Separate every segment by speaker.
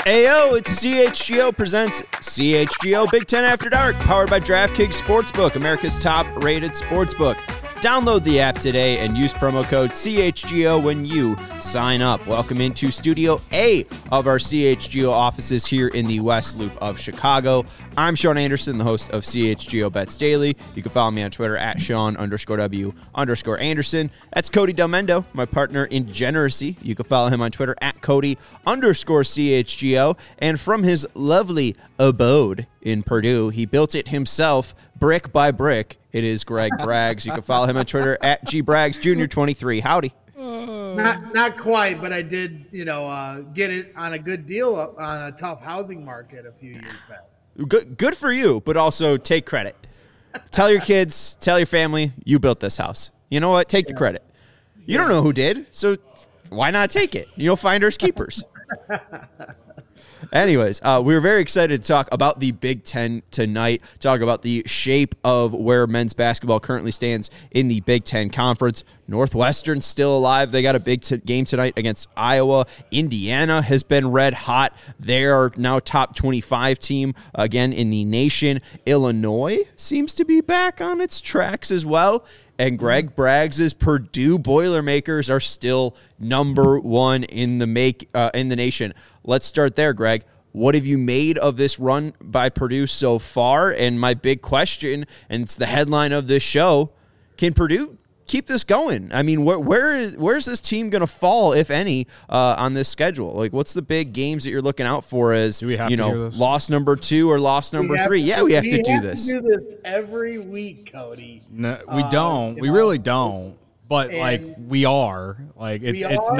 Speaker 1: Ayo, it's CHGO presents CHGO Big Ten After Dark, powered by DraftKings Sportsbook, America's top-rated sportsbook. Download the app today and use promo code CHGO when you sign up. Welcome into Studio A of our CHGO offices here in the West Loop of Chicago. I'm Sean Anderson, the host of CHGO Bets Daily. You can follow me on Twitter at Sean_W_Anderson. That's Cody Del Mendo, my partner in degeneracy. You can follow him on Twitter at Cody_CHGO. And from his lovely abode in Purdue, he built it himself, brick by brick. It is Greg Braggs. You can follow him on Twitter at GBraggs Jr. 23. Howdy.
Speaker 2: Not quite, but I did, get it on a good deal on a tough housing market a few years back.
Speaker 1: Good for you, but also take credit. Tell your kids, tell your family, you built this house. You know what? Take the credit. You don't know who did, so why not take it? You'll finders keepers. Anyways, we were very excited to talk about the Big Ten tonight, talk about the shape of where men's basketball currently stands in the Big Ten Conference. Northwestern still alive. They got a big game tonight against Iowa. Indiana has been red hot. They are now top 25 team again in the nation. Illinois seems to be back on its tracks as well. And Greg Braggs' Purdue Boilermakers are still number one in the nation. Let's start there, Greg. What have you made of this run by Purdue so far? And my big question, and it's the headline of this show, can Purdue keep this going? I mean, where's this team going to fall, if any, on this schedule? Like, what's the big games that you're looking out for as, loss number 2 or loss number 3? We have to do this.
Speaker 2: We do this every week, Cody.
Speaker 3: No, we don't. We really don't. But we are. Like it's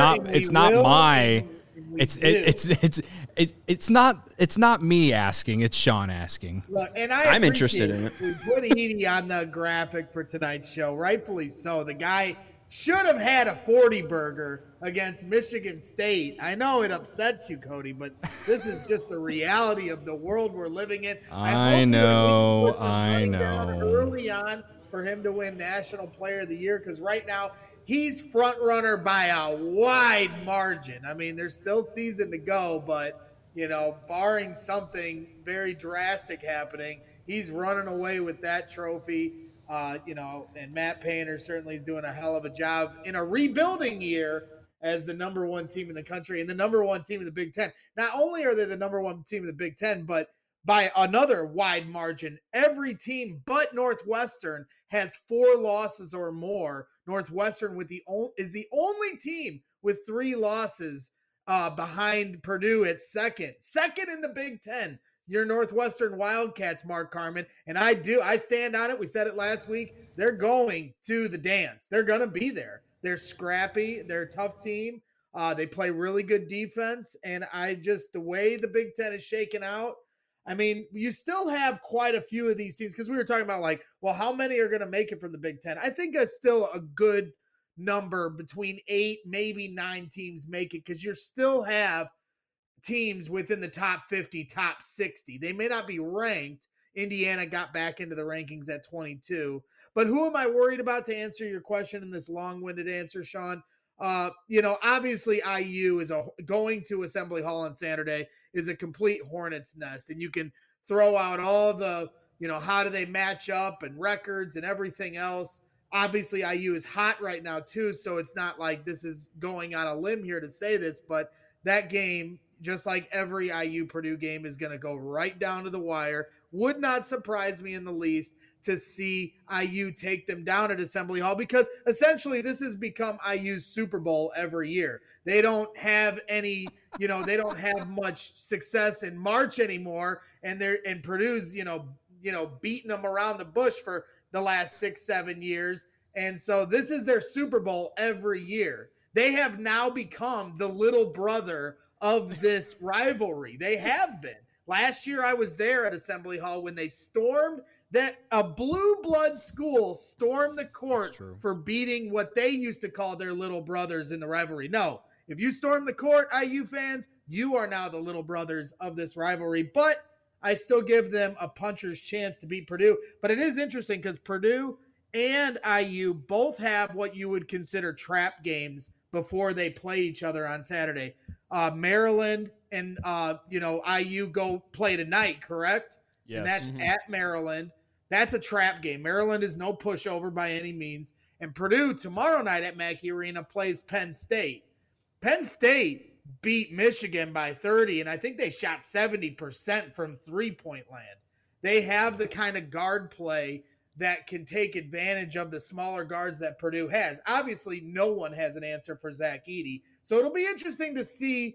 Speaker 3: not me asking, it's Sean asking.
Speaker 2: Look, and
Speaker 1: I'm interested in it.
Speaker 2: We put Edie on the graphic for tonight's show, rightfully so. The guy should have had a 40 burger against Michigan State. I know it upsets you, Cody, but this is just the reality of the world we're living in.
Speaker 3: I know.
Speaker 2: Early on for him to win National Player of the Year, because right now he's front runner by a wide margin. I mean, there's still season to go, but barring something very drastic happening, he's running away with that trophy. And Matt Painter certainly is doing a hell of a job in a rebuilding year as the number one team in the country and the number one team in the Big Ten. Not only are they the number one team in the Big Ten, but by another wide margin, every team but Northwestern has 4 losses or more. Northwestern is the only team with 3 losses behind Purdue at second in the Big Ten. Your Northwestern Wildcats, Mark Carman, and I stand on it. We said it last week. They're going to the dance. They're going to be there. They're scrappy. They're a tough team. They play really good defense, and the way the Big Ten is shaken out, I mean, you still have quite a few of these teams, because we were talking about how many are going to make it from the Big Ten? I think that's still a good number, between 8, maybe 9 teams make it, because you still have teams within the top 50, top 60. They may not be ranked. Indiana got back into the rankings at 22. But who am I worried about, to answer your question in this long-winded answer, Sean? Obviously IU is going to Assembly Hall on Saturday is a complete hornet's nest, and you can throw out all the, how do they match up and records and everything else. Obviously IU is hot right now too, so it's not like this is going on a limb here to say this, but that game, just like every IU Purdue game, is going to go right down to the wire. Would not surprise me in the least to see IU take them down at Assembly Hall, because essentially this has become IU's Super Bowl every year. They don't have any, they don't have much success in March anymore, and Purdue's, beating them around the bush for the last 6-7 years. And so this is their Super Bowl every year. They have now become the little brother of this rivalry. They have been. Last year I was there at Assembly Hall when they stormed that a blue blood school stormed the court for beating what they used to call their little brothers in the rivalry. No, if you storm the court, IU fans, you are now the little brothers of this rivalry. But I still give them a puncher's chance to beat Purdue. But it is interesting because Purdue and IU both have what you would consider trap games before they play each other on Saturday. Maryland and IU go play tonight, correct?
Speaker 3: Yes.
Speaker 2: And that's at Maryland. That's a trap game. Maryland is no pushover by any means. And Purdue tomorrow night at Mackey Arena plays Penn State. Penn State beat Michigan by 30, and I think they shot 70% from three-point land. They have the kind of guard play that can take advantage of the smaller guards that Purdue has. Obviously, no one has an answer for Zach Edey. So it'll be interesting to see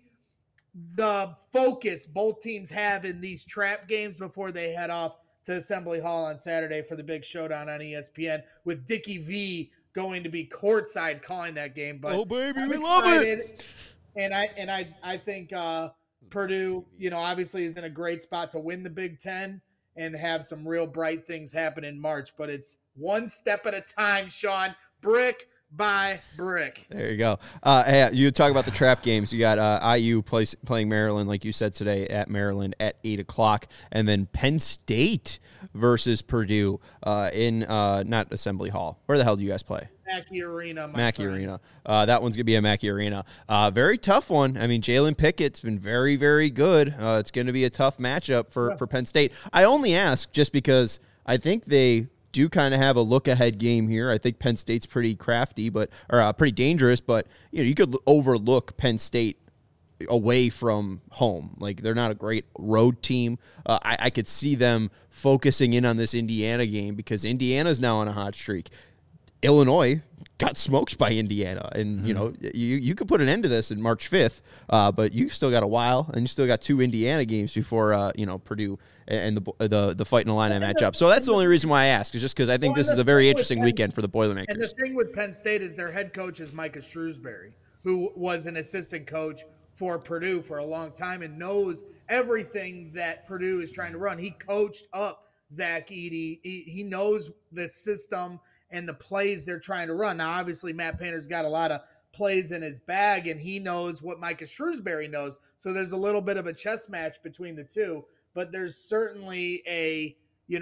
Speaker 2: the focus both teams have in these trap games before they head off to Assembly Hall on Saturday for the big showdown on ESPN, with Dickie V going to be courtside calling that game. But
Speaker 1: oh baby,
Speaker 2: I'm
Speaker 1: we
Speaker 2: excited,
Speaker 1: love it.
Speaker 2: And I think Purdue, obviously is in a great spot to win the Big Ten and have some real bright things happen in March. But it's one step at a time, Sean. Brick by brick.
Speaker 1: There you go. Hey, you talk about the trap games. You got IU playing Maryland, like you said today, at Maryland at 8 o'clock. And then Penn State versus Purdue in not Assembly Hall. Where the hell do you guys play?
Speaker 2: Mackey Arena.
Speaker 1: Mackey Arena. That one's going to be at Mackey Arena. Very tough one. I mean, Jalen Pickett's been very, very good. It's going to be a tough matchup for Penn State. I only ask just because I think they do kind of have a look-ahead game here. I think Penn State's pretty crafty, or pretty dangerous, but you could overlook Penn State away from home. Like, they're not a great road team. I could see them focusing in on this Indiana game because Indiana's now on a hot streak. Illinois got smoked by Indiana, and you could put an end to this in March 5th, but you still got a while, and you still got 2 Indiana games before Purdue and the Fighting Illini matchup. So that's the only reason why I ask, is just because I think this is a very interesting weekend for the Boilermakers.
Speaker 2: And the thing with Penn State is their head coach is Micah Shrewsbury, who was an assistant coach for Purdue for a long time and knows everything that Purdue is trying to run. He coached up Zach Edey. He knows the system and the plays they're trying to run. Now, obviously, Matt Painter's got a lot of plays in his bag, and he knows what Micah Shrewsbury knows. So there's a little bit of a chess match between the two. But there's certainly a,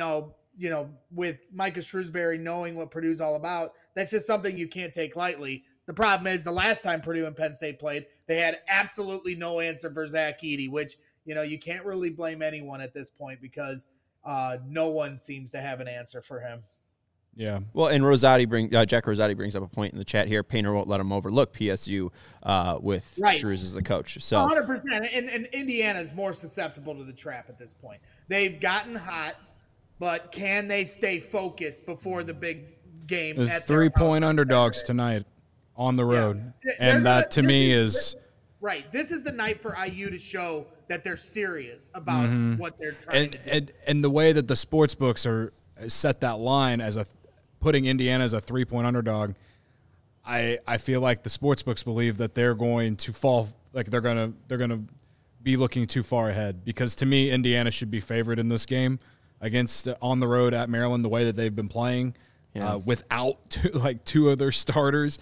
Speaker 2: with Micah Shrewsbury knowing what Purdue's all about, that's just something you can't take lightly. The problem is the last time Purdue and Penn State played, they had absolutely no answer for Zach Edey, which, you can't really blame anyone at this point because no one seems to have an answer for him.
Speaker 3: Yeah.
Speaker 1: Well, and Jack Rosati brings up a point in the chat here. Painter won't let him overlook PSU with Shrews as the coach. So
Speaker 2: 100%. And Indiana is more susceptible to the trap at this point. They've gotten hot, but can they stay focused before the big game?
Speaker 3: The 3-point underdogs tonight on the road. Yeah. And that to me is
Speaker 2: right. This is the night for IU to show that they're serious about what they're trying to do.
Speaker 3: And the way that the sports books are set that line as putting Indiana as a 3-point underdog, I feel like the sportsbooks believe that they're going to fall, like they're gonna be looking too far ahead, because to me Indiana should be favored in this game against on the road at Maryland the way that they've been playing without two of their starters.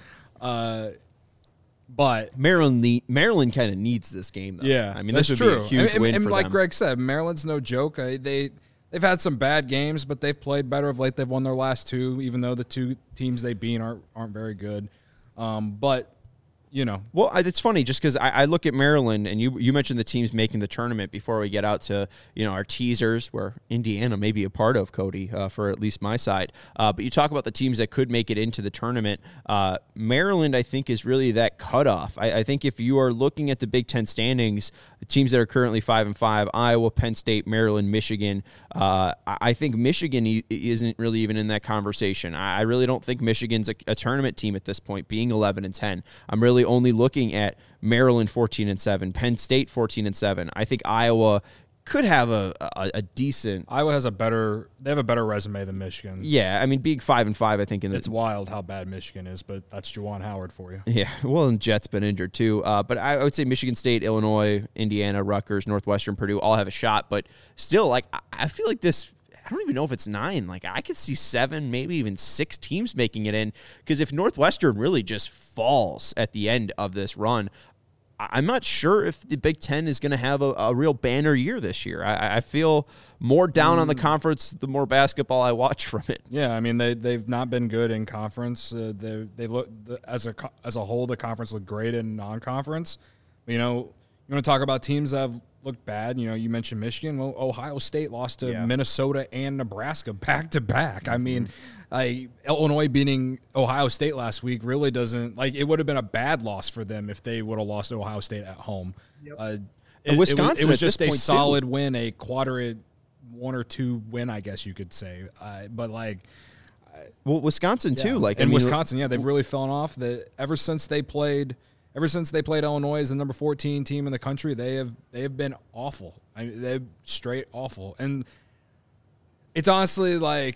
Speaker 3: But
Speaker 1: Maryland kind of needs this game, though.
Speaker 3: Yeah,
Speaker 1: I mean, this would be a huge win for them.
Speaker 3: And like Greg said, Maryland's no joke. They've had some bad games, but they've played better of late. They've won their last 2, even though the 2 teams they beat aren't very good. But
Speaker 1: Well, it's funny just because I look at Maryland, and you mentioned the teams making the tournament before we get out to our teasers, where Indiana may be a part of, Cody, for at least my side. But you talk about the teams that could make it into the tournament. Maryland, I think, is really that cutoff. I think if you are looking at the Big Ten standings, the teams that are currently 5-5, Iowa, Penn State, Maryland, Michigan, I think Michigan isn't really even in that conversation. I really don't think Michigan's a tournament team at this point, being 11-10. I'm really only looking at Maryland 14-7, Penn State 14-7. I think Iowa could have a decent.
Speaker 3: Iowa has a better resume than Michigan.
Speaker 1: Yeah, I mean, being 5-5, I think
Speaker 3: it's wild how bad Michigan is, but that's Juwan Howard for you.
Speaker 1: Yeah, well, and Jet's been injured too. But I would say Michigan State, Illinois, Indiana, Rutgers, Northwestern, Purdue all have a shot. But still, like, I feel like this. I don't even know if it's 9. Like, I could see 7, maybe even 6 teams making it in. Because if Northwestern really just falls at the end of this run, I'm not sure if the Big Ten is going to have a real banner year this year. I feel more down on the conference the more basketball I watch from it.
Speaker 3: Yeah, I mean they've not been good in conference. They look as a whole, the conference looked great in non-conference. You You want to talk about teams that have looked bad? You mentioned Michigan. Well, Ohio State lost to Minnesota and Nebraska back to back. I mean, Illinois beating Ohio State last week really doesn't it would have been a bad loss for them if they would have lost to Ohio State at home.
Speaker 2: Yep.
Speaker 1: Wisconsin,
Speaker 3: it was just a solid
Speaker 1: too.
Speaker 3: win, a quadrant 1 or 2 win, I guess you could say. But
Speaker 1: Wisconsin too.
Speaker 3: Wisconsin, they've really fallen off. Ever since they played Illinois as the number 14 team in the country, they have been awful. I mean, they're straight awful. And it's honestly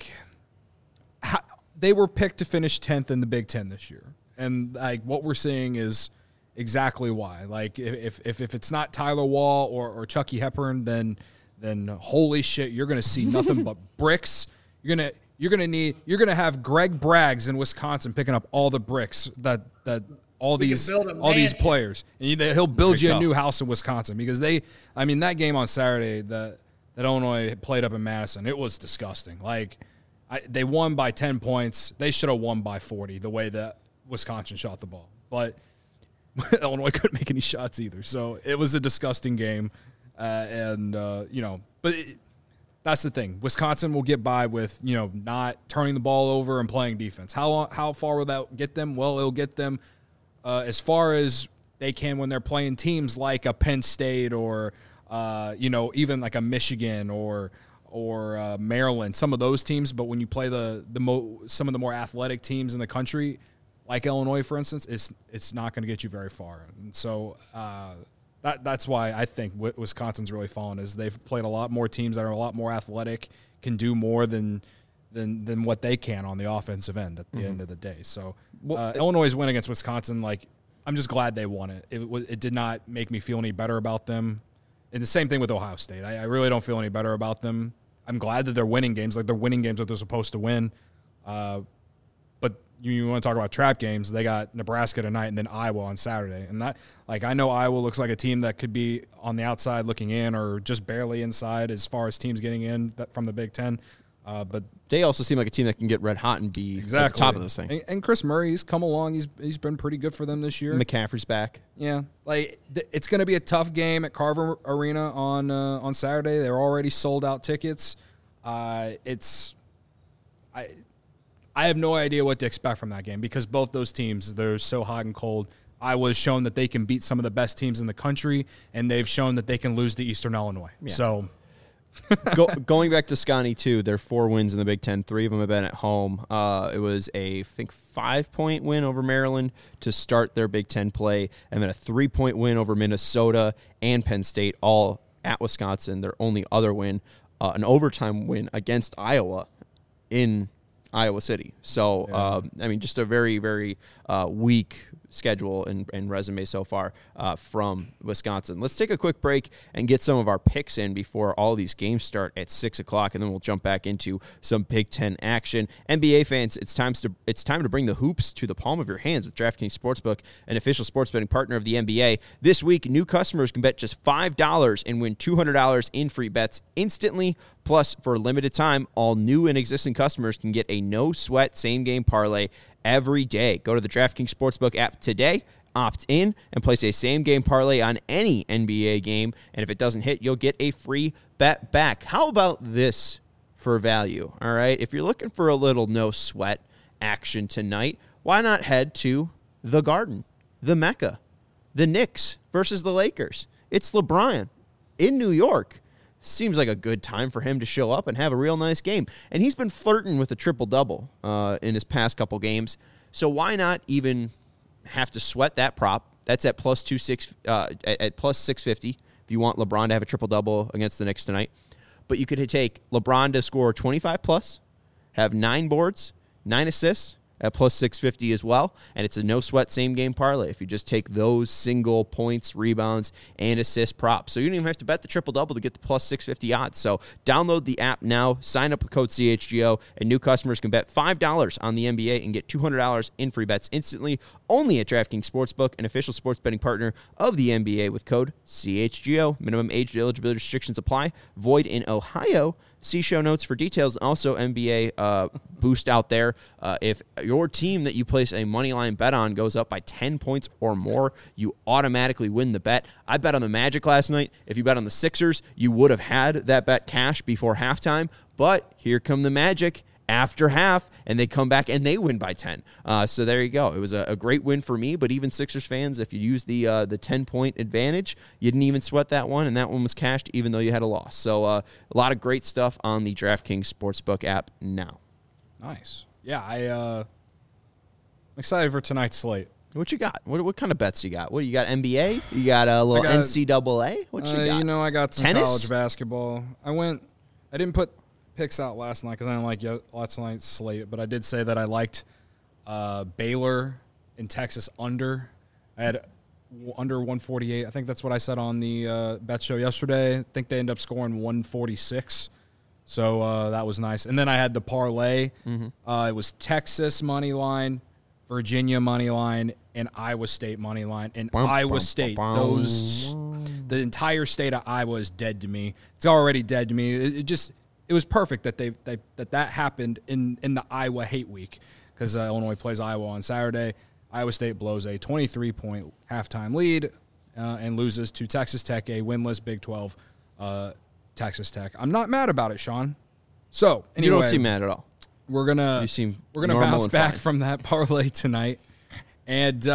Speaker 3: they were picked to finish 10th in the Big Ten this year. And what we're seeing is exactly why. If it's not Tyler Wall or Chucky Hepburn, then holy shit, you're going to see nothing but bricks. You're gonna have Greg Braggs in Wisconsin picking up all the bricks that all these players, and he'll build you a new house in Wisconsin because that game on Saturday that Illinois played up in Madison, it was disgusting. They won by 10 points. They should have won by 40 the way that Wisconsin shot the ball, but Illinois couldn't make any shots either. So it was a disgusting game, but. That's the thing. Wisconsin will get by with, not turning the ball over and playing defense. How far will that get them? Well, it'll get them as far as they can when they're playing teams like a Penn State or, even like a Michigan or Maryland, some of those teams. But when you play some of the more athletic teams in the country, like Illinois, for instance, it's not going to get you very far. And so That's why I think Wisconsin's really fallen is they've played a lot more teams that are a lot more athletic, can do more than what they can on the offensive end at the end of the day. So Illinois' win against Wisconsin, I'm just glad they won it. It did not make me feel any better about them. And the same thing with Ohio State. I really don't feel any better about them. I'm glad that they're winning games. They're winning games that they're supposed to win. But you want to talk about trap games, they got Nebraska tonight and then Iowa on Saturday. And that, I know Iowa looks like a team that could be on the outside looking in or just barely inside as far as teams getting in from the Big Ten. But
Speaker 1: they also seem like a team that can get red hot and be at the top of this thing.
Speaker 3: And Chris Murray, he's come along. He's been pretty good for them this year.
Speaker 1: McCaffrey's back.
Speaker 3: Yeah. It's going to be a tough game at Carver Arena on Saturday. They're already sold out tickets. I have no idea what to expect from that game because both those teams, they're so hot and cold. Iowa's shown that they can beat some of the best teams in the country, and they've shown that they can lose to Eastern Illinois. Yeah. So
Speaker 1: going back to Scotty, too, their 4 wins in the Big Ten, 3 of them have been at home. It was I think 5-point win over Maryland to start their Big Ten play, and then a 3-point win over Minnesota and Penn State, all at Wisconsin. Their only other win, an overtime win against Iowa in Iowa City. So, just a very, very weak schedule and resume so far from Wisconsin. Let's take a quick break and get some of our picks in before all these games start at 6 o'clock, and then we'll jump back into some Big Ten action. NBA fans, it's time to bring the hoops to the palm of your hands with DraftKings Sportsbook, an official sports betting partner of the NBA. This week, new customers can bet just $5 and win $200 in free bets instantly. Plus, for a limited time, all new and existing customers can get a no-sweat same-game parlay every day. Go to the DraftKings Sportsbook app today, opt in, and place a same-game parlay on any NBA game. And if it doesn't hit, you'll get a free bet back. How about this for value? All right, if you're looking for a little no-sweat action tonight, why not head to the Garden, the Mecca, the Knicks versus the Lakers? It's LeBron in New York. Seems like a good time for him to show up and have a real nice game. And he's been flirting with a triple-double in his past couple games. So why not even have to sweat that prop? That's at plus 650 if you want LeBron to have a triple-double against the Knicks tonight. But you could take LeBron to score 25+, have 9 boards, 9 assists, at plus 650 as well, and it's a no-sweat same-game parlay if you just take those single points, rebounds, and assist props. So you don't even have to bet the triple-double to get the plus 650 odds. So download the app now, sign up with code CHGO, and new customers can bet $5 on the NBA and get $200 in free bets instantly, only at DraftKings Sportsbook, an official sports betting partner of the NBA with code CHGO. Minimum age and eligibility restrictions apply. Void in Ohio. See show notes for details. Also, NBA boost out there. If your team that you place a money line bet on goes up by 10 points or more, you automatically win the bet. I bet on the Magic last night. If you bet on the Sixers, you would have had that bet cash before halftime. But here come the Magic after half, and they come back and they win by 10. So there you go. It was a great win for me, but even Sixers fans, if you use the 10-point advantage, you didn't even sweat that one, and that one was cashed even though you had a loss. So a lot of great stuff on the DraftKings Sportsbook app now.
Speaker 3: Nice. Yeah, I'm excited for tonight's slate.
Speaker 1: What you got? What kind of bets you got? What you got? NBA? You got a little NCAA? What you got?
Speaker 3: I got some
Speaker 1: Tennis?
Speaker 3: college basketball. I didn't put picks out last night because I didn't like last night's slate, but I did say that I liked Baylor and Texas under. I had under 148. I think that's what I said on the bet show yesterday. I think they ended up scoring 146. So that was nice. And then I had the parlay. It was Texas money line, Virginia money line, and Iowa State money line. And Iowa State, the entire state of Iowa is dead to me. It's already dead to me. It was perfect that that happened in the Iowa hate week because Illinois plays Iowa on Saturday. Iowa State blows a 23-point halftime lead and loses to Texas Tech, a winless Big 12 Texas Tech. I'm not mad about it, Sean. So anyway,
Speaker 1: You don't seem mad at all.
Speaker 3: We're gonna bounce back from that parlay tonight. And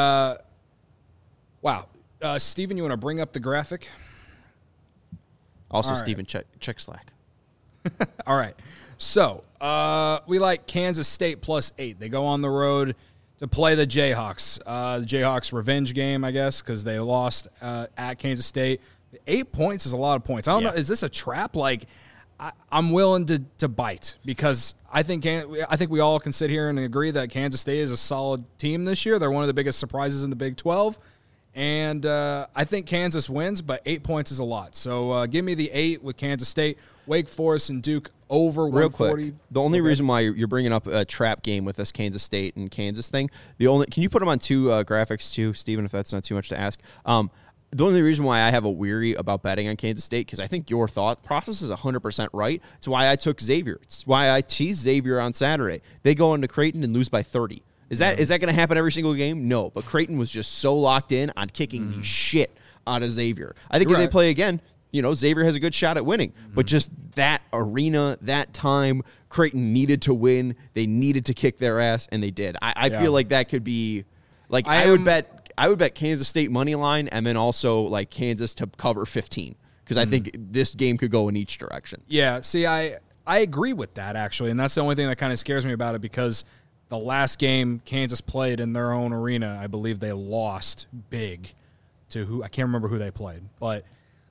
Speaker 3: Steven, you want to bring up the graphic?
Speaker 1: Also, Steven, check Slack.
Speaker 3: All right. So we like Kansas State +8. They go on the road to play the Jayhawks. The Jayhawks revenge game, I guess, because they lost at Kansas State. 8 points is a lot of points. I don't know. Is this a trap? Like, I'm willing to bite because I think we all can sit here and agree that Kansas State is a solid team this year. They're one of the biggest surprises in the Big 12. And I think Kansas wins, but 8 points is a lot. So give me the 8 with Kansas State, Wake Forest, and Duke over 140.
Speaker 1: Real quick, the only reason why you're bringing up a trap game with this Kansas State and Kansas thing, can you put them on two graphics too, Steven, if that's not too much to ask? The only reason why I have a weary about betting on Kansas State, because I think your thought process is 100% right. It's why I took Xavier. It's why I teased Xavier on Saturday. They go into Creighton and lose by 30. Is that going to happen every single game? No, but Creighton was just so locked in on kicking the shit out of Xavier. I think if they play again, Xavier has a good shot at winning. But just that arena, that time, Creighton needed to win. They needed to kick their ass, and they did. I feel like that could be like I would bet Kansas State money line and then also like Kansas to cover 15 because I think this game could go in each direction.
Speaker 3: Yeah, see, I agree with that actually, and that's the only thing that kind of scares me about it because the last game Kansas played in their own arena, I believe they lost big to who I can't remember who they played, but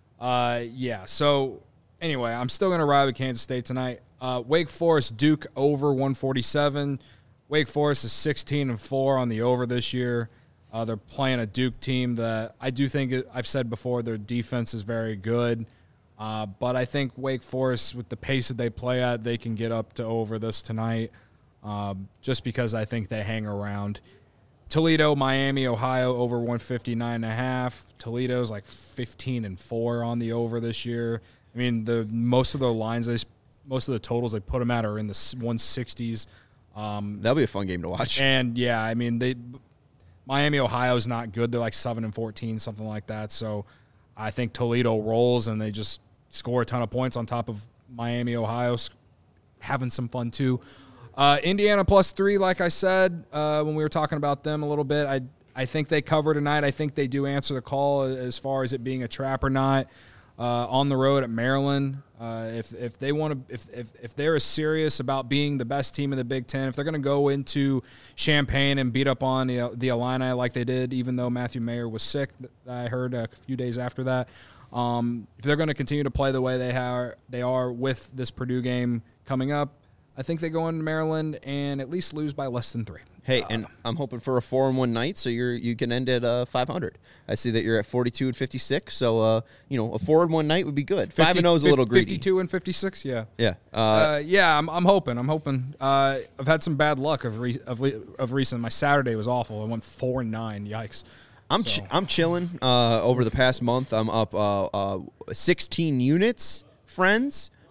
Speaker 3: So anyway, I'm still gonna ride with Kansas State tonight. Wake Forest Duke over 147. Wake Forest is 16-4 on the over this year. They're playing a Duke team that I do think, I've said before, their defense is very good. But I think Wake Forest, with the pace that they play at, they can get up to over this tonight just because I think they hang around. Toledo, Miami, Ohio, over 159.5. Toledo's like 15-4 on the over this year. I mean, most of the totals they put them at are in the 160s.
Speaker 1: That'll be a fun game to watch.
Speaker 3: And, yeah, I mean, Miami, Ohio is not good. They're like 7-14, something like that. So I think Toledo rolls and they just score a ton of points on top of Miami, Ohio, having some fun too. Indiana +3, like I said when we were talking about them a little bit. I think they cover tonight. I think they do answer the call as far as it being a trap or not. On the road at Maryland, if they want to, if they're as serious about being the best team in the Big Ten, if they're going to go into Champaign and beat up on the Illini like they did, even though Matthew Mayer was sick, I heard a few days after that. If they're going to continue to play the way they are with this Purdue game coming up, I think they go into Maryland and at least lose by less than 3.
Speaker 1: Hey, and I'm hoping for a 4-1 night, so you can end at 500. I see that you're at 42-56, so a 4-1 night would be good. 5-0 is a little greedy.
Speaker 3: 52-56, yeah.
Speaker 1: Yeah.
Speaker 3: I'm hoping. I've had some bad luck of recent. My Saturday was awful. I went 4-9. Yikes.
Speaker 1: I'm chilling. Over the past month, I'm up 16 units, friends.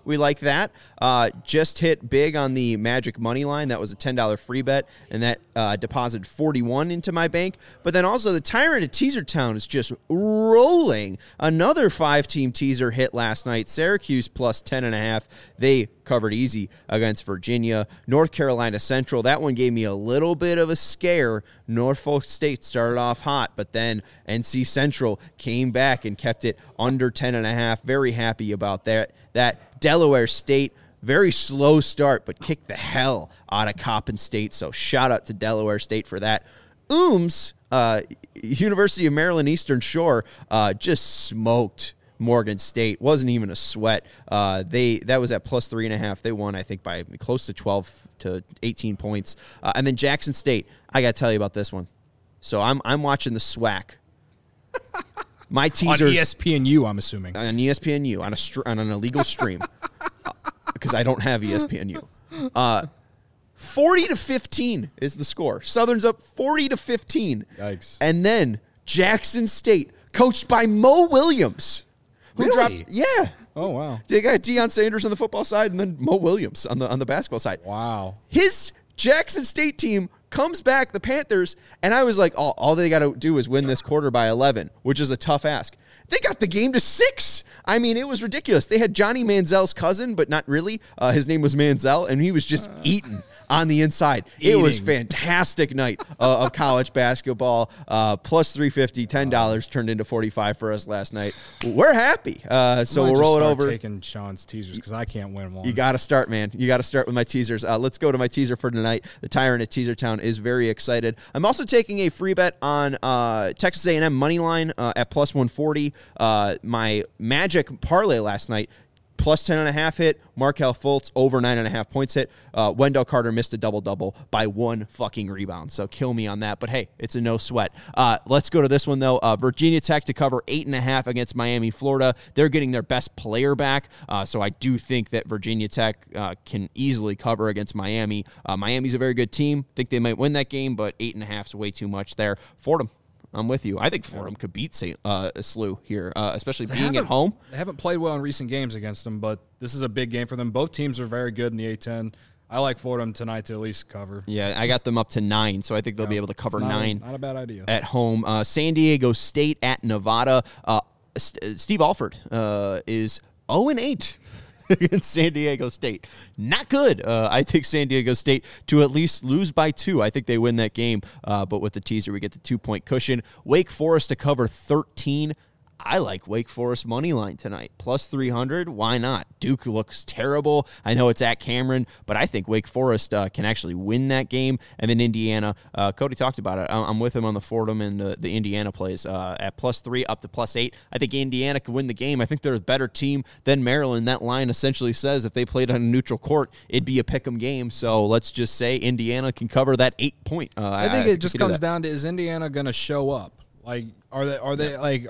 Speaker 1: We like that. Just hit big on the Magic money line. That was a $10 free bet, and that deposited 41 into my bank. But then also the Tyrant at Teaser Town is just rolling. Another 5-team teaser hit last night. Syracuse plus 10.5. They covered easy against Virginia. North Carolina Central, that one gave me a little bit of a scare. Norfolk State started off hot, but then NC Central came back and kept it under 10.5. Very happy about that. That Delaware State, very slow start, but kicked the hell out of Coppin State. So shout out to Delaware State for that. University of Maryland Eastern Shore, just smoked Morgan State. Wasn't even a sweat. That was at plus 3.5. They won, I think, by close to 12 to 18 points. And then Jackson State. I got to tell you about this one. So I'm watching the SWAC. My teasers
Speaker 3: on ESPNU, I'm assuming.
Speaker 1: On ESPNU on an illegal stream because I don't have ESPNU. 40-15 is the score. Southern's up 40-15.
Speaker 3: Yikes!
Speaker 1: And then Jackson State, coached by Mo Williams.
Speaker 3: Really?
Speaker 1: Yeah.
Speaker 3: Oh, wow.
Speaker 1: They got Deion Sanders on the football side and then Mo Williams on the basketball side.
Speaker 3: Wow.
Speaker 1: His Jackson State team comes back, the Panthers, and I was like, all they got to do is win this quarter by 11, which is a tough ask. They got the game to 6. I mean, it was ridiculous. They had Johnny Manziel's cousin, but not really. His name was Manziel, and he was just eating on the inside. It was fantastic night of college basketball. Plus 350, $10 turned into 45 for us last night. We're happy. So we'll roll it over.
Speaker 3: Taking Sean's teasers because I can't win one.
Speaker 1: You got to start, man. You got to start with my teasers. Let's go to my teaser for tonight. The Tyrant at Teaser Town is very excited. I'm also taking a free bet on Texas A&M money line at plus 140. My Magic parlay last night, plus 10.5 hit. Markelle Fultz over 9.5 points hit. Wendell Carter missed a double-double by 1 fucking rebound. So kill me on that. But hey, it's a no sweat. Let's go to this one, though. Virginia Tech to cover 8.5 against Miami, Florida. They're getting their best player back. So I do think that Virginia Tech can easily cover against Miami. Miami's a very good team. Think they might win that game, but 8.5 is way too much there. Fordham. I'm with you. I think Fordham could beat SLU here, especially being at home.
Speaker 3: They haven't played well in recent games against them, but this is a big game for them. Both teams are very good in the A-10. I like Fordham tonight to at least cover.
Speaker 1: Yeah, I got them up to 9, so I think they'll be able to cover 9.
Speaker 3: Not a bad idea.
Speaker 1: At home. San Diego State at Nevada. Steve Alford is 0-8. Against San Diego State. Not good. I take San Diego State to at least lose by 2. I think they win that game. But with the teaser, we get the 2-point cushion. Wake Forest to cover 13. I like Wake Forest money line tonight. Plus 300. Why not? Duke looks terrible. I know it's at Cameron, but I think Wake Forest can actually win that game. And then Indiana, Cody talked about it. I'm with him on the Fordham and the Indiana plays at plus 3 up to plus 8. I think Indiana could win the game. I think they're a better team than Maryland. That line essentially says if they played on a neutral court, it'd be a pick'em game. So let's just say Indiana can cover that 8 point.
Speaker 3: I think it just comes down to, is Indiana going to show up? Like, are they like...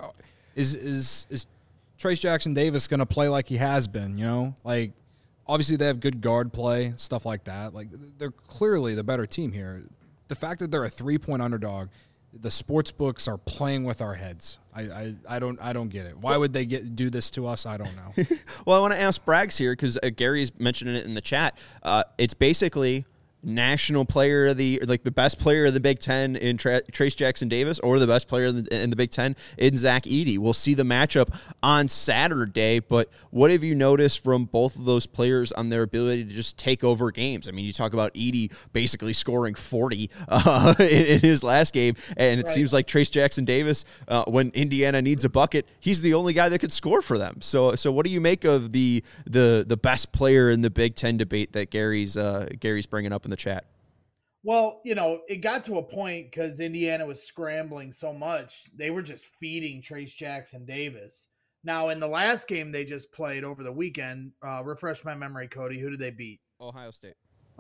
Speaker 3: Is Trace Jackson Davis going to play like he has been, you know? Like, obviously they have good guard play, stuff like that. Like, they're clearly the better team here. The fact that they're a 3-point underdog, the sports books are playing with our heads. I don't get it. Why would they do this to us? I don't know.
Speaker 1: Well, I want to ask Braggs here because Gary's mentioning it in the chat. It's basically national player of the best player of the Big Ten in Trace Jackson Davis, or the best player in the Big Ten in Zach Edey. We'll see the matchup on Saturday, but what have you noticed from both of those players on their ability to just take over games? I mean, you talk about Edey basically scoring 40 in his last game, and it seems like Trace Jackson Davis, when Indiana needs a bucket, he's the only guy that could score for them. So what do you make of the best player in the Big Ten debate that Gary's bringing up in the chat?
Speaker 2: Well, it got to a point because Indiana was scrambling so much, they were just feeding Trace Jackson Davis. Now, in the last game they just played over the weekend, refresh my memory, Cody, who did they beat?
Speaker 1: Ohio State.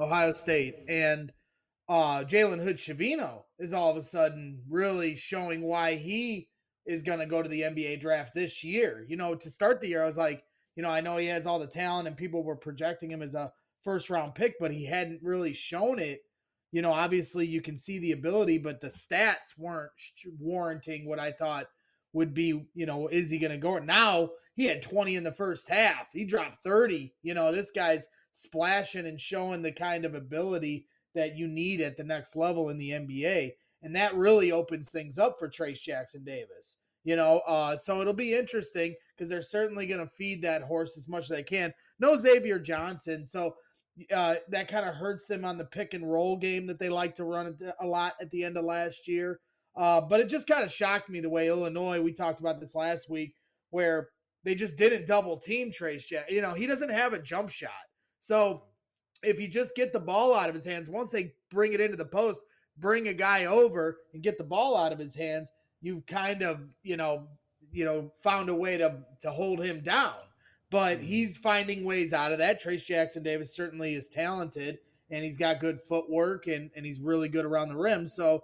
Speaker 2: And Jalen Hood-Schifino is all of a sudden really showing why he is going to go to the NBA draft this year. To start the year, I was like, I know he has all the talent and people were projecting him as a first-round pick, but he hadn't really shown it. Obviously you can see the ability, but the stats weren't warranting what I thought would be, is he going to go? Now he had 20 in the first half. He dropped 30. This guy's splashing and showing the kind of ability that you need at the next level in the NBA. And that really opens things up for Trayce Jackson-Davis. So it'll be interesting because they're certainly going to feed that horse as much as they can. No Xavier Johnson, so that kind of hurts them on the pick and roll game that they like to run a lot at the end of last year. But it just kind of shocked me the way Illinois, we talked about this last week, where they just didn't double team Trayce Jackson. He doesn't have a jump shot. So if you just get the ball out of his hands, once they bring it into the post, bring a guy over and get the ball out of his hands, you've kind of, found a way to hold him down. But he's finding ways out of that. Trayce Jackson-Davis certainly is talented, and he's got good footwork, and he's really good around the rim. So,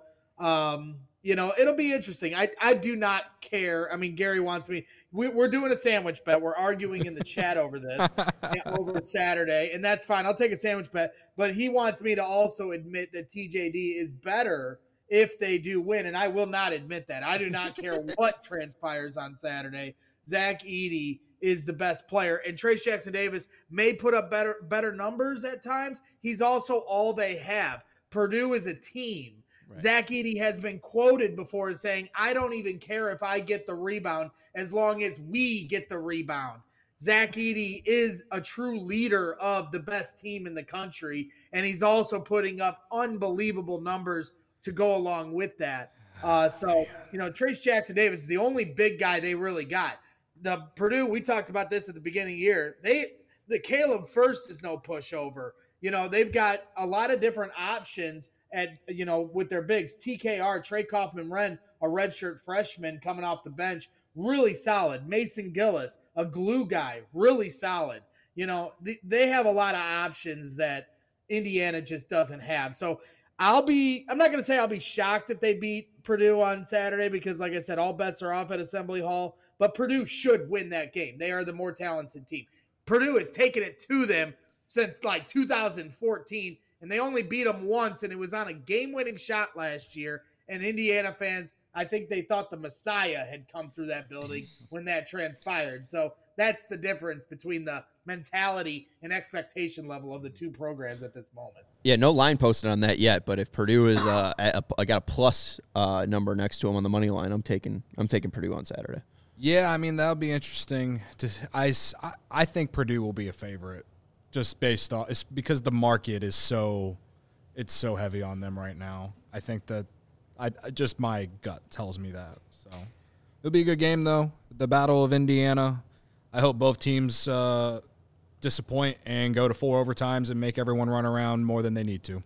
Speaker 2: it'll be interesting. I do not care. I mean, Gary wants me. We're doing a sandwich bet. We're arguing in the chat over this over Saturday, and that's fine. I'll take a sandwich bet. But he wants me to also admit that TJD is better if they do win, and I will not admit that. I do not care what transpires on Saturday. Zach Edey is the best player, and Trayce Jackson-Davis may put up better numbers at times. He's also all they have. Purdue is a team. Right. Zach Edey has been quoted before as saying, I don't even care if I get the rebound as long as we get the rebound. Zach Edey is a true leader of the best team in the country, and he's also putting up unbelievable numbers to go along with that. Trayce Jackson-Davis is the only big guy they really got. The Purdue, we talked about this at the beginning of the year. The Caleb Furst is no pushover. They've got a lot of different options with their bigs. TKR, Trey Kaufman-Renn, a redshirt freshman coming off the bench, really solid. Mason Gillis, a glue guy, really solid. They have a lot of options that Indiana just doesn't have. So I'm not going to say I'll be shocked if they beat Purdue on Saturday because, like I said, all bets are off at Assembly Hall. But Purdue should win that game. They are the more talented team. Purdue has taken it to them since like 2014, and they only beat them once, and it was on a game-winning shot last year. And Indiana fans, I think they thought the Messiah had come through that building when that transpired. So that's the difference between the mentality and expectation level of the two programs at this moment.
Speaker 1: Yeah, no line posted on that yet, but if Purdue is I got a plus number next to them on the money line, I'm taking Purdue on Saturday.
Speaker 3: Yeah, I mean, that'll be interesting. I think Purdue will be a favorite just based on – it's because the market is so heavy on them right now. I think that just my gut tells me that. So it'll be a good game, though. The Battle of Indiana. I hope both teams disappoint and go to 4 overtimes and make everyone run around more than they need to.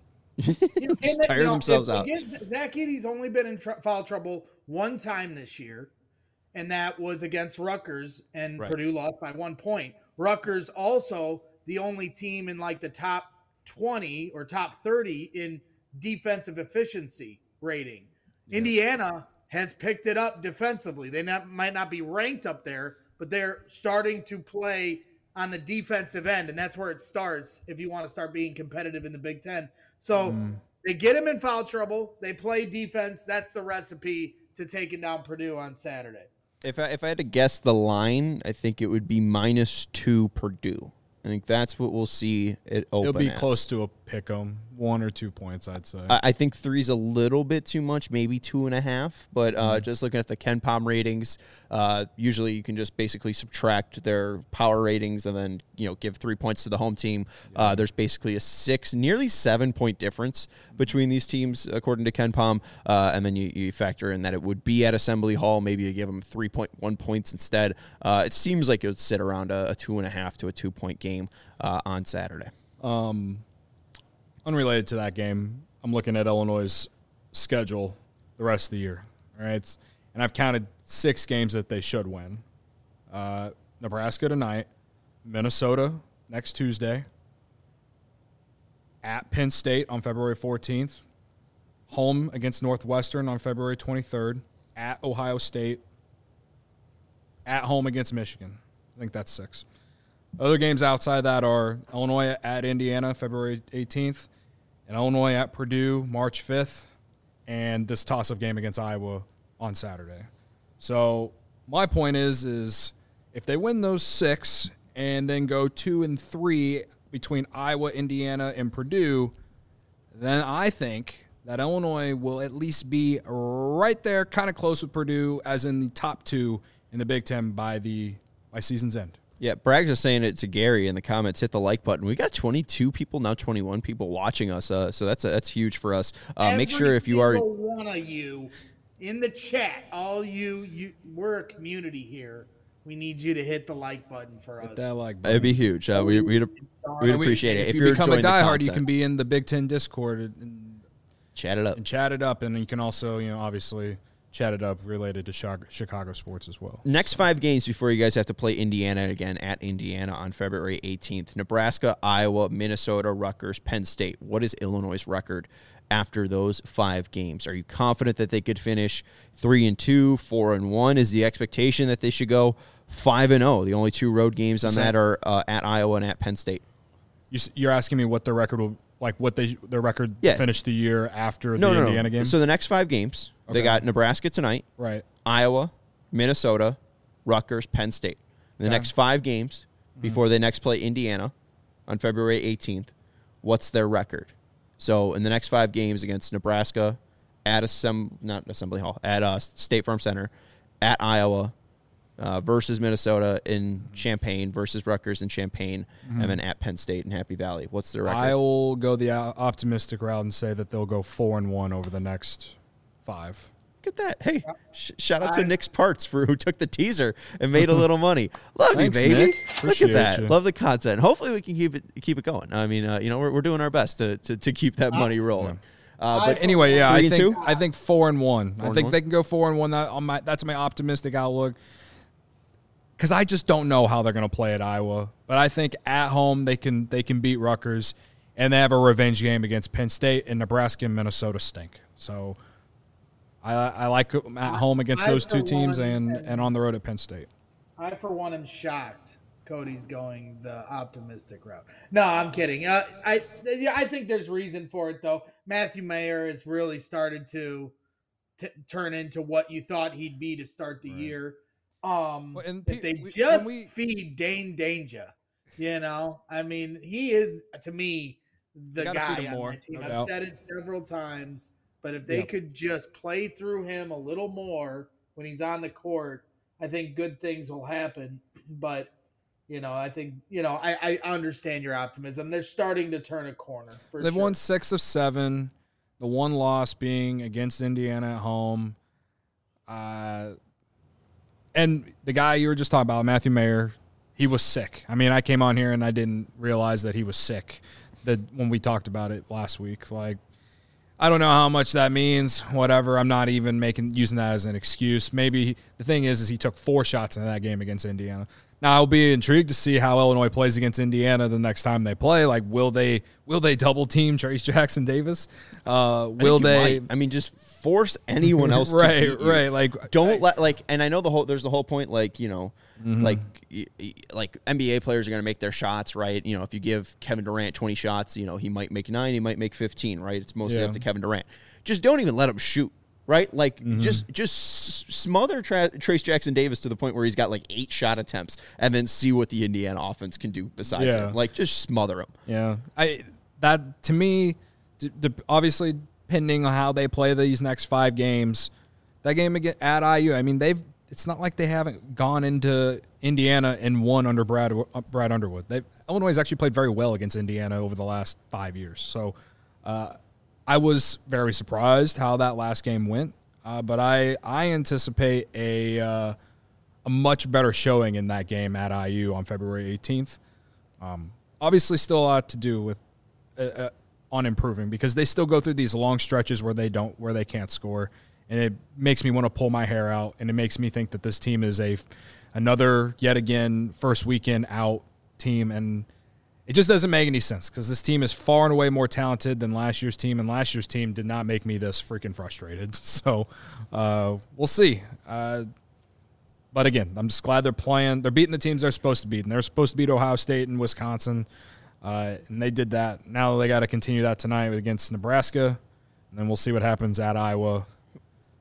Speaker 1: Just tire themselves out.
Speaker 2: Zach Edey's only been in foul trouble one time this year, and that was against Rutgers, and right. Purdue lost by 1 point. Rutgers also the only team in like the top 20 or top 30 in defensive efficiency rating. Yeah. Indiana has picked it up defensively. They might not be ranked up there, but they're starting to play on the defensive end, and that's where it starts if you want to start being competitive in the Big Ten. So they get them in foul trouble. They play defense. That's the recipe to taking down Purdue on Saturday.
Speaker 1: If I had to guess the line, I think it would be -2 Purdue. I think that's what we'll see it open.
Speaker 3: It'll be close to a pick 'em, 1 or 2 points, I'd say.
Speaker 1: I think 3's a little bit too much, maybe 2.5. But just looking at the KenPom ratings, usually you can just basically subtract their power ratings and then give 3 points to the home team. There's basically a nearly 7 point difference between these teams according to KenPom, and then you factor in that it would be at Assembly Hall. Maybe you give them 3.1 points instead. It seems like it would sit around a 2.5 to a 2 point game on Saturday.
Speaker 3: Unrelated to that game, I'm looking at Illinois' schedule the rest of the year. All right, and I've counted 6 games that they should win. Nebraska tonight, Minnesota next Tuesday, at Penn State on February 14th, home against Northwestern on February 23rd, at Ohio State, at home against Michigan. I think that's 6. Other games outside that are Illinois at Indiana, February 18th, and Illinois at Purdue, March 5th, and this toss-up game against Iowa on Saturday. So my point is if they win those 6 and then go 2-3 between Iowa, Indiana, and Purdue, then I think that Illinois will at least be right there, kind of close with Purdue, as in the top 2 in the Big Ten by season's end.
Speaker 1: Yeah, Bragg's just saying it to Gary in the comments. Hit the like button. We got 22 people now, 21 people watching us. So that's huge for us. Make sure if you are
Speaker 2: one of you in the chat, all you, we're a community here. We need you to hit the like button for us.
Speaker 3: That like button.
Speaker 1: It'd be huge. We'd appreciate it.
Speaker 3: If you become a diehard, you can be in the Big Ten Discord and
Speaker 1: chat it up.
Speaker 3: And you can also, obviously chat it up related to Chicago sports as well.
Speaker 1: Next 5 games before you guys have to play Indiana again at Indiana on February 18th. Nebraska, Iowa, Minnesota, Rutgers, Penn State. What is Illinois' record after those 5 games? Are you confident that they could finish 3-2, 4-1? Is the expectation that they should go 5-0? The only 2 road games on that are at Iowa and at Penn State.
Speaker 3: You're asking me what the record will their record finished the year after the Indiana game?
Speaker 1: So the next 5 games, they got Nebraska tonight,
Speaker 3: right?
Speaker 1: Iowa, Minnesota, Rutgers, Penn State. The next 5 games before they next play Indiana on February 18th, what's their record? So in the next 5 games against Nebraska, at State Farm Center, at Iowa, versus Minnesota in Champaign, versus Rutgers in Champaign, and then at Penn State in Happy Valley. What's their record?
Speaker 3: I will go the optimistic route and say that they'll go 4-1 over the next 5.
Speaker 1: Look at that. Hey, shout out to Nick's Parts who took the teaser and made a little money. Love
Speaker 3: Thanks,
Speaker 1: you, baby.
Speaker 3: Nick.
Speaker 1: Look at that.
Speaker 3: You.
Speaker 1: Love the content. Hopefully we can keep it going. I mean, we're doing our best to keep that money rolling.
Speaker 3: But anyway, I think 4-1. I think
Speaker 1: 4-1?
Speaker 3: they can go 4-1. That's my optimistic outlook. Because I just don't know how they're going to play at Iowa. But I think at home they can beat Rutgers, and they have a revenge game against Penn State, and Nebraska and Minnesota stink. So I like at home against those 2 teams and on the road at Penn State.
Speaker 2: I, for one, am shocked Cody's going the optimistic route. No, I'm kidding. I think there's reason for it, though. Matthew Mayer has really started to turn into what you thought he'd be to start the year. If they feed Dane Danger, I mean, he is, to me, the guy on my team. I've said it several times, but if they could just play through him a little more when he's on the court, I think good things will happen. But, I think, I understand your optimism. They're starting to turn a corner.
Speaker 3: They've won 6 of 7, the one loss being against Indiana at home. And the guy you were just talking about, Matthew Mayer, he was sick. I mean, I came on here and I didn't realize that he was sick when we talked about it last week. Like, I don't know how much that means, whatever. I'm not even using that as an excuse. Maybe the thing is he took 4 shots in that game against Indiana. Now, I'll be intrigued to see how Illinois plays against Indiana the next time they play. Like, will they double team Trace Jackson Davis? Will they?
Speaker 1: I mean, just force anyone else to beat you.
Speaker 3: Right. Like,
Speaker 1: don't let and I know there's the whole point. Like, like NBA players are going to make their shots, right? If you give Kevin Durant 20 shots, he might make 9, he might make 15, right? It's mostly up to Kevin Durant. Just don't even let him shoot. Right? Like, just smother Trace Jackson Davis to the point where he's got 8 shot attempts and then see what the Indiana offense can do besides him. Like, just smother him.
Speaker 3: Yeah. That, to me, obviously, depending on how they play these next 5 games, that game at IU, I mean, it's not like they haven't gone into Indiana and won under Brad Underwood. Illinois has actually played very well against Indiana over the last 5 years. So, I was very surprised how that last game went, but I anticipate a much better showing in that game at IU on February 18th. Obviously, still a lot to do with on improving because they still go through these long stretches where they can't score, and it makes me want to pull my hair out, and it makes me think that this team is another yet again first weekend out team, and it just doesn't make any sense because this team is far and away more talented than last year's team, and last year's team did not make me this freaking frustrated. So we'll see. But again, I'm just glad they're playing. They're beating the teams they're supposed to beat, and they're supposed to beat Ohio State and Wisconsin, and they did that. Now they got to continue that tonight against Nebraska, and then we'll see what happens at Iowa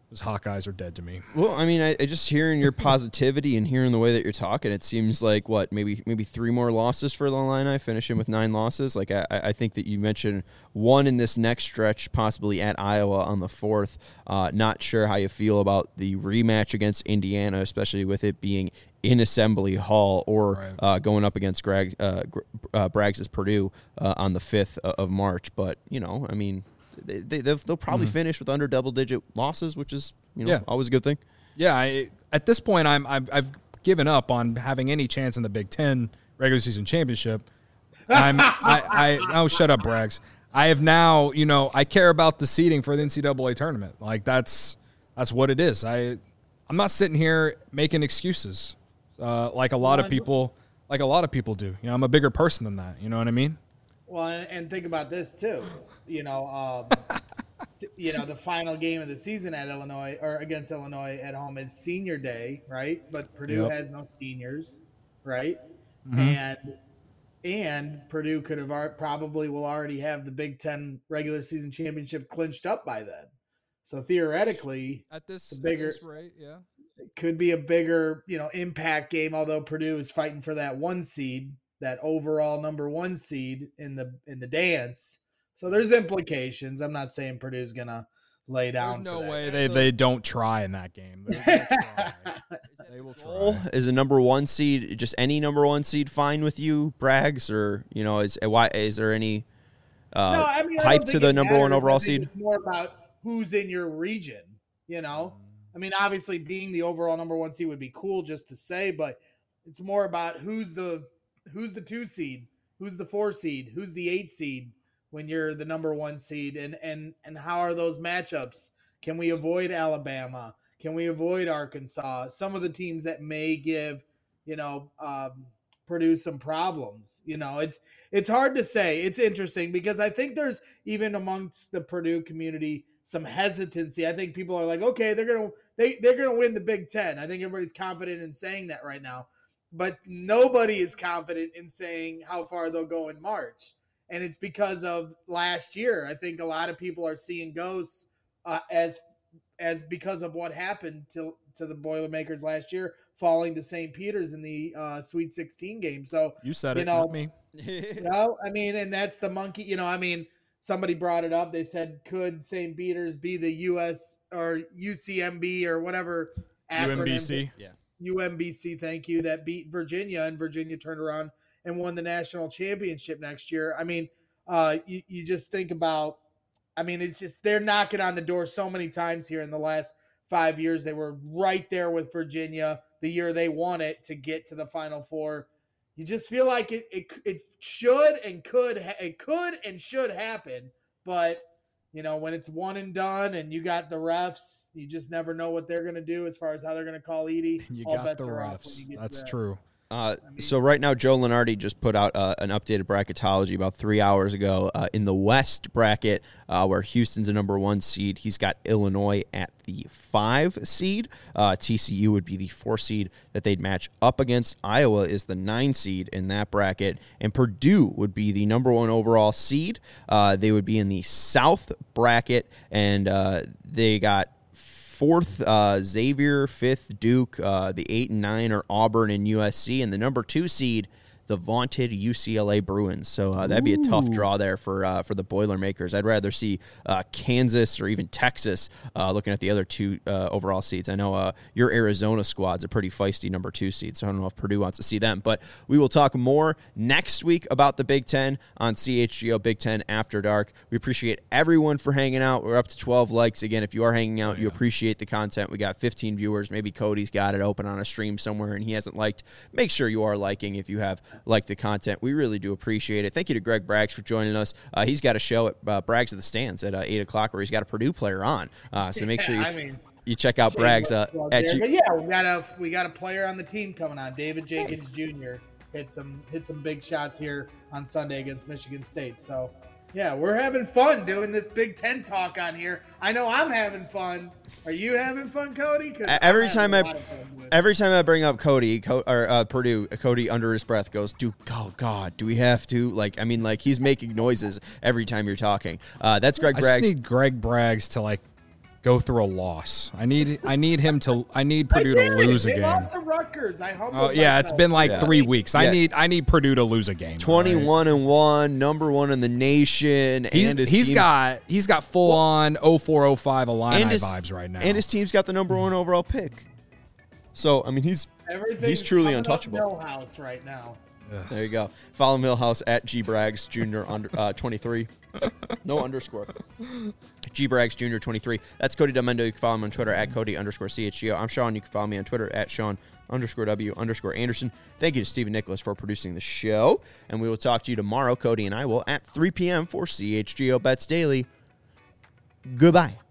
Speaker 3: Those Hawkeyes are dead to me.
Speaker 1: Well, I mean, I just hearing your positivity and hearing the way that you're talking, it seems like maybe 3 more losses for the Illini, finishing with 9 losses. Like I think that you mentioned one in this next stretch, possibly at Iowa on the 4th. Not sure how you feel about the rematch against Indiana, especially with it being in Assembly Hall or going up against Braggs' Purdue on the 5th of March. But I mean, they'll probably finish with under double-digit losses, which is always a good thing.
Speaker 3: Yeah, at this point, I've given up on having any chance in the Big Ten regular season championship. Oh, shut up, Braggs. I have now, I care about the seeding for the NCAA tournament. Like that's what it is. I'm not sitting here making excuses like a lot of people do. I'm a bigger person than that. You know what I mean?
Speaker 2: Well, and think about this too. The final game of the season at Illinois or against Illinois at home is Senior Day, right? But Purdue has no seniors, right? Mm-hmm. And Purdue could have probably will already have the Big Ten regular season championship clinched up by then. So theoretically,
Speaker 3: at this rate,
Speaker 2: it could be a bigger, impact game. Although Purdue is fighting for that 1 seed. That overall number 1 seed in the dance. So there's implications. I'm not saying Purdue's gonna lay down.
Speaker 3: There's no way they don't try in that game. They will try.
Speaker 1: Is a number 1 seed, just any number 1 seed, fine with you, Braggs, or is there any hype to the number 1 overall seed?
Speaker 2: It's more about who's in your region. I mean, obviously being the overall number 1 seed would be cool just to say, but it's more about who's the 2 seed, who's the 4 seed, who's the 8 seed when you're the number 1 seed, and how are those matchups? Can we avoid Alabama? Can we avoid Arkansas? Some of the teams that may give, Purdue some problems. It's hard to say. It's interesting because I think there's even amongst the Purdue community some hesitancy. I think people are like, okay, they're gonna win the Big Ten. I think everybody's confident in saying that right now. But nobody is confident in saying how far they'll go in March. And it's because of last year. I think a lot of people are seeing ghosts as because of what happened to the Boilermakers last year, falling to St. Peter's in the Sweet 16 game. So
Speaker 3: you said it, not me.
Speaker 2: And that's the monkey. Somebody brought it up. They said, could St. Peter's be the US or UCMB or whatever acronym?
Speaker 3: UMBC. Yeah.
Speaker 2: UMBC, thank you, that beat Virginia, and Virginia turned around and won the national championship next year. I mean, you just think about, it's just they're knocking on the door so many times here in the last 5 years. They were right there with Virginia the year they won it to get to the Final Four. You just feel like it should and should happen, but when it's one and done and you got the refs, you just never know what they're going to do as far as how they're going to call Edey.
Speaker 3: You got the refs. That's true.
Speaker 1: So right now, Joe Lunardi just put out an updated bracketology about 3 hours ago. In the West bracket, where Houston's a number 1 seed, he's got Illinois at the 5 seed. TCU would be the 4 seed that they'd match up against. Iowa is the 9 seed in that bracket, and Purdue would be the number 1 overall seed. They would be in the South bracket, and they got 4th, Xavier, 5th, Duke, the 8 and 9 are Auburn and USC, and the number 2 seed, the vaunted UCLA Bruins. So that'd be a tough draw there for the Boilermakers. I'd rather see Kansas or even Texas looking at the other 2 overall seeds. I know your Arizona squad's a pretty feisty number 2 seed, so I don't know if Purdue wants to see them. But we will talk more next week about the Big Ten on CHGO Big Ten After Dark. We appreciate everyone for hanging out. We're up to 12 likes. Again, if you are hanging out, you appreciate the content. We got 15 viewers. Maybe Cody's got it open on a stream somewhere and he hasn't liked. Make sure you are liking if you have like the content. We really do appreciate it. Thank you to Greg Braggs for joining us. He's got a show at Braggs at the Stands at 8 o'clock where he's got a Purdue player on. So make sure you check out Braggs.
Speaker 2: We got a player on the team coming on, David Jenkins Jr. Hit some big shots here on Sunday against Michigan State. So, yeah, we're having fun doing this Big Ten talk on here. I know I'm having fun. Are you having fun, Cody?
Speaker 1: Every time I bring up Purdue, Cody under his breath goes, "Do we have to?" He's making noises every time you're talking. That's Greg Braggs.
Speaker 3: I just need Greg Braggs to go through a loss. I need Purdue to lose a game.
Speaker 2: They lost to Rutgers. I humbled
Speaker 3: yeah, it's been like 3 weeks.
Speaker 1: Yeah.
Speaker 3: I need Purdue to lose a game.
Speaker 1: 21-1, number one in the nation.
Speaker 3: He's got full on 0405 Illini vibes right now.
Speaker 1: And his team's got the number one overall pick. So I mean he's truly untouchable.
Speaker 2: Millhouse right now.
Speaker 1: There you go. Follow Millhouse at gbraggs Jr. 23. No underscore. gbraggs Jr. 23. That's Cody Demendo. You can follow him on Twitter at Cody_CHGO. I'm Sean. You can follow me on Twitter at Sean_W_Anderson. Thank you to Stephen Nicholas for producing the show. And we will talk to you tomorrow, Cody and I will, at 3 p.m. for CHGO Bets Daily. Goodbye.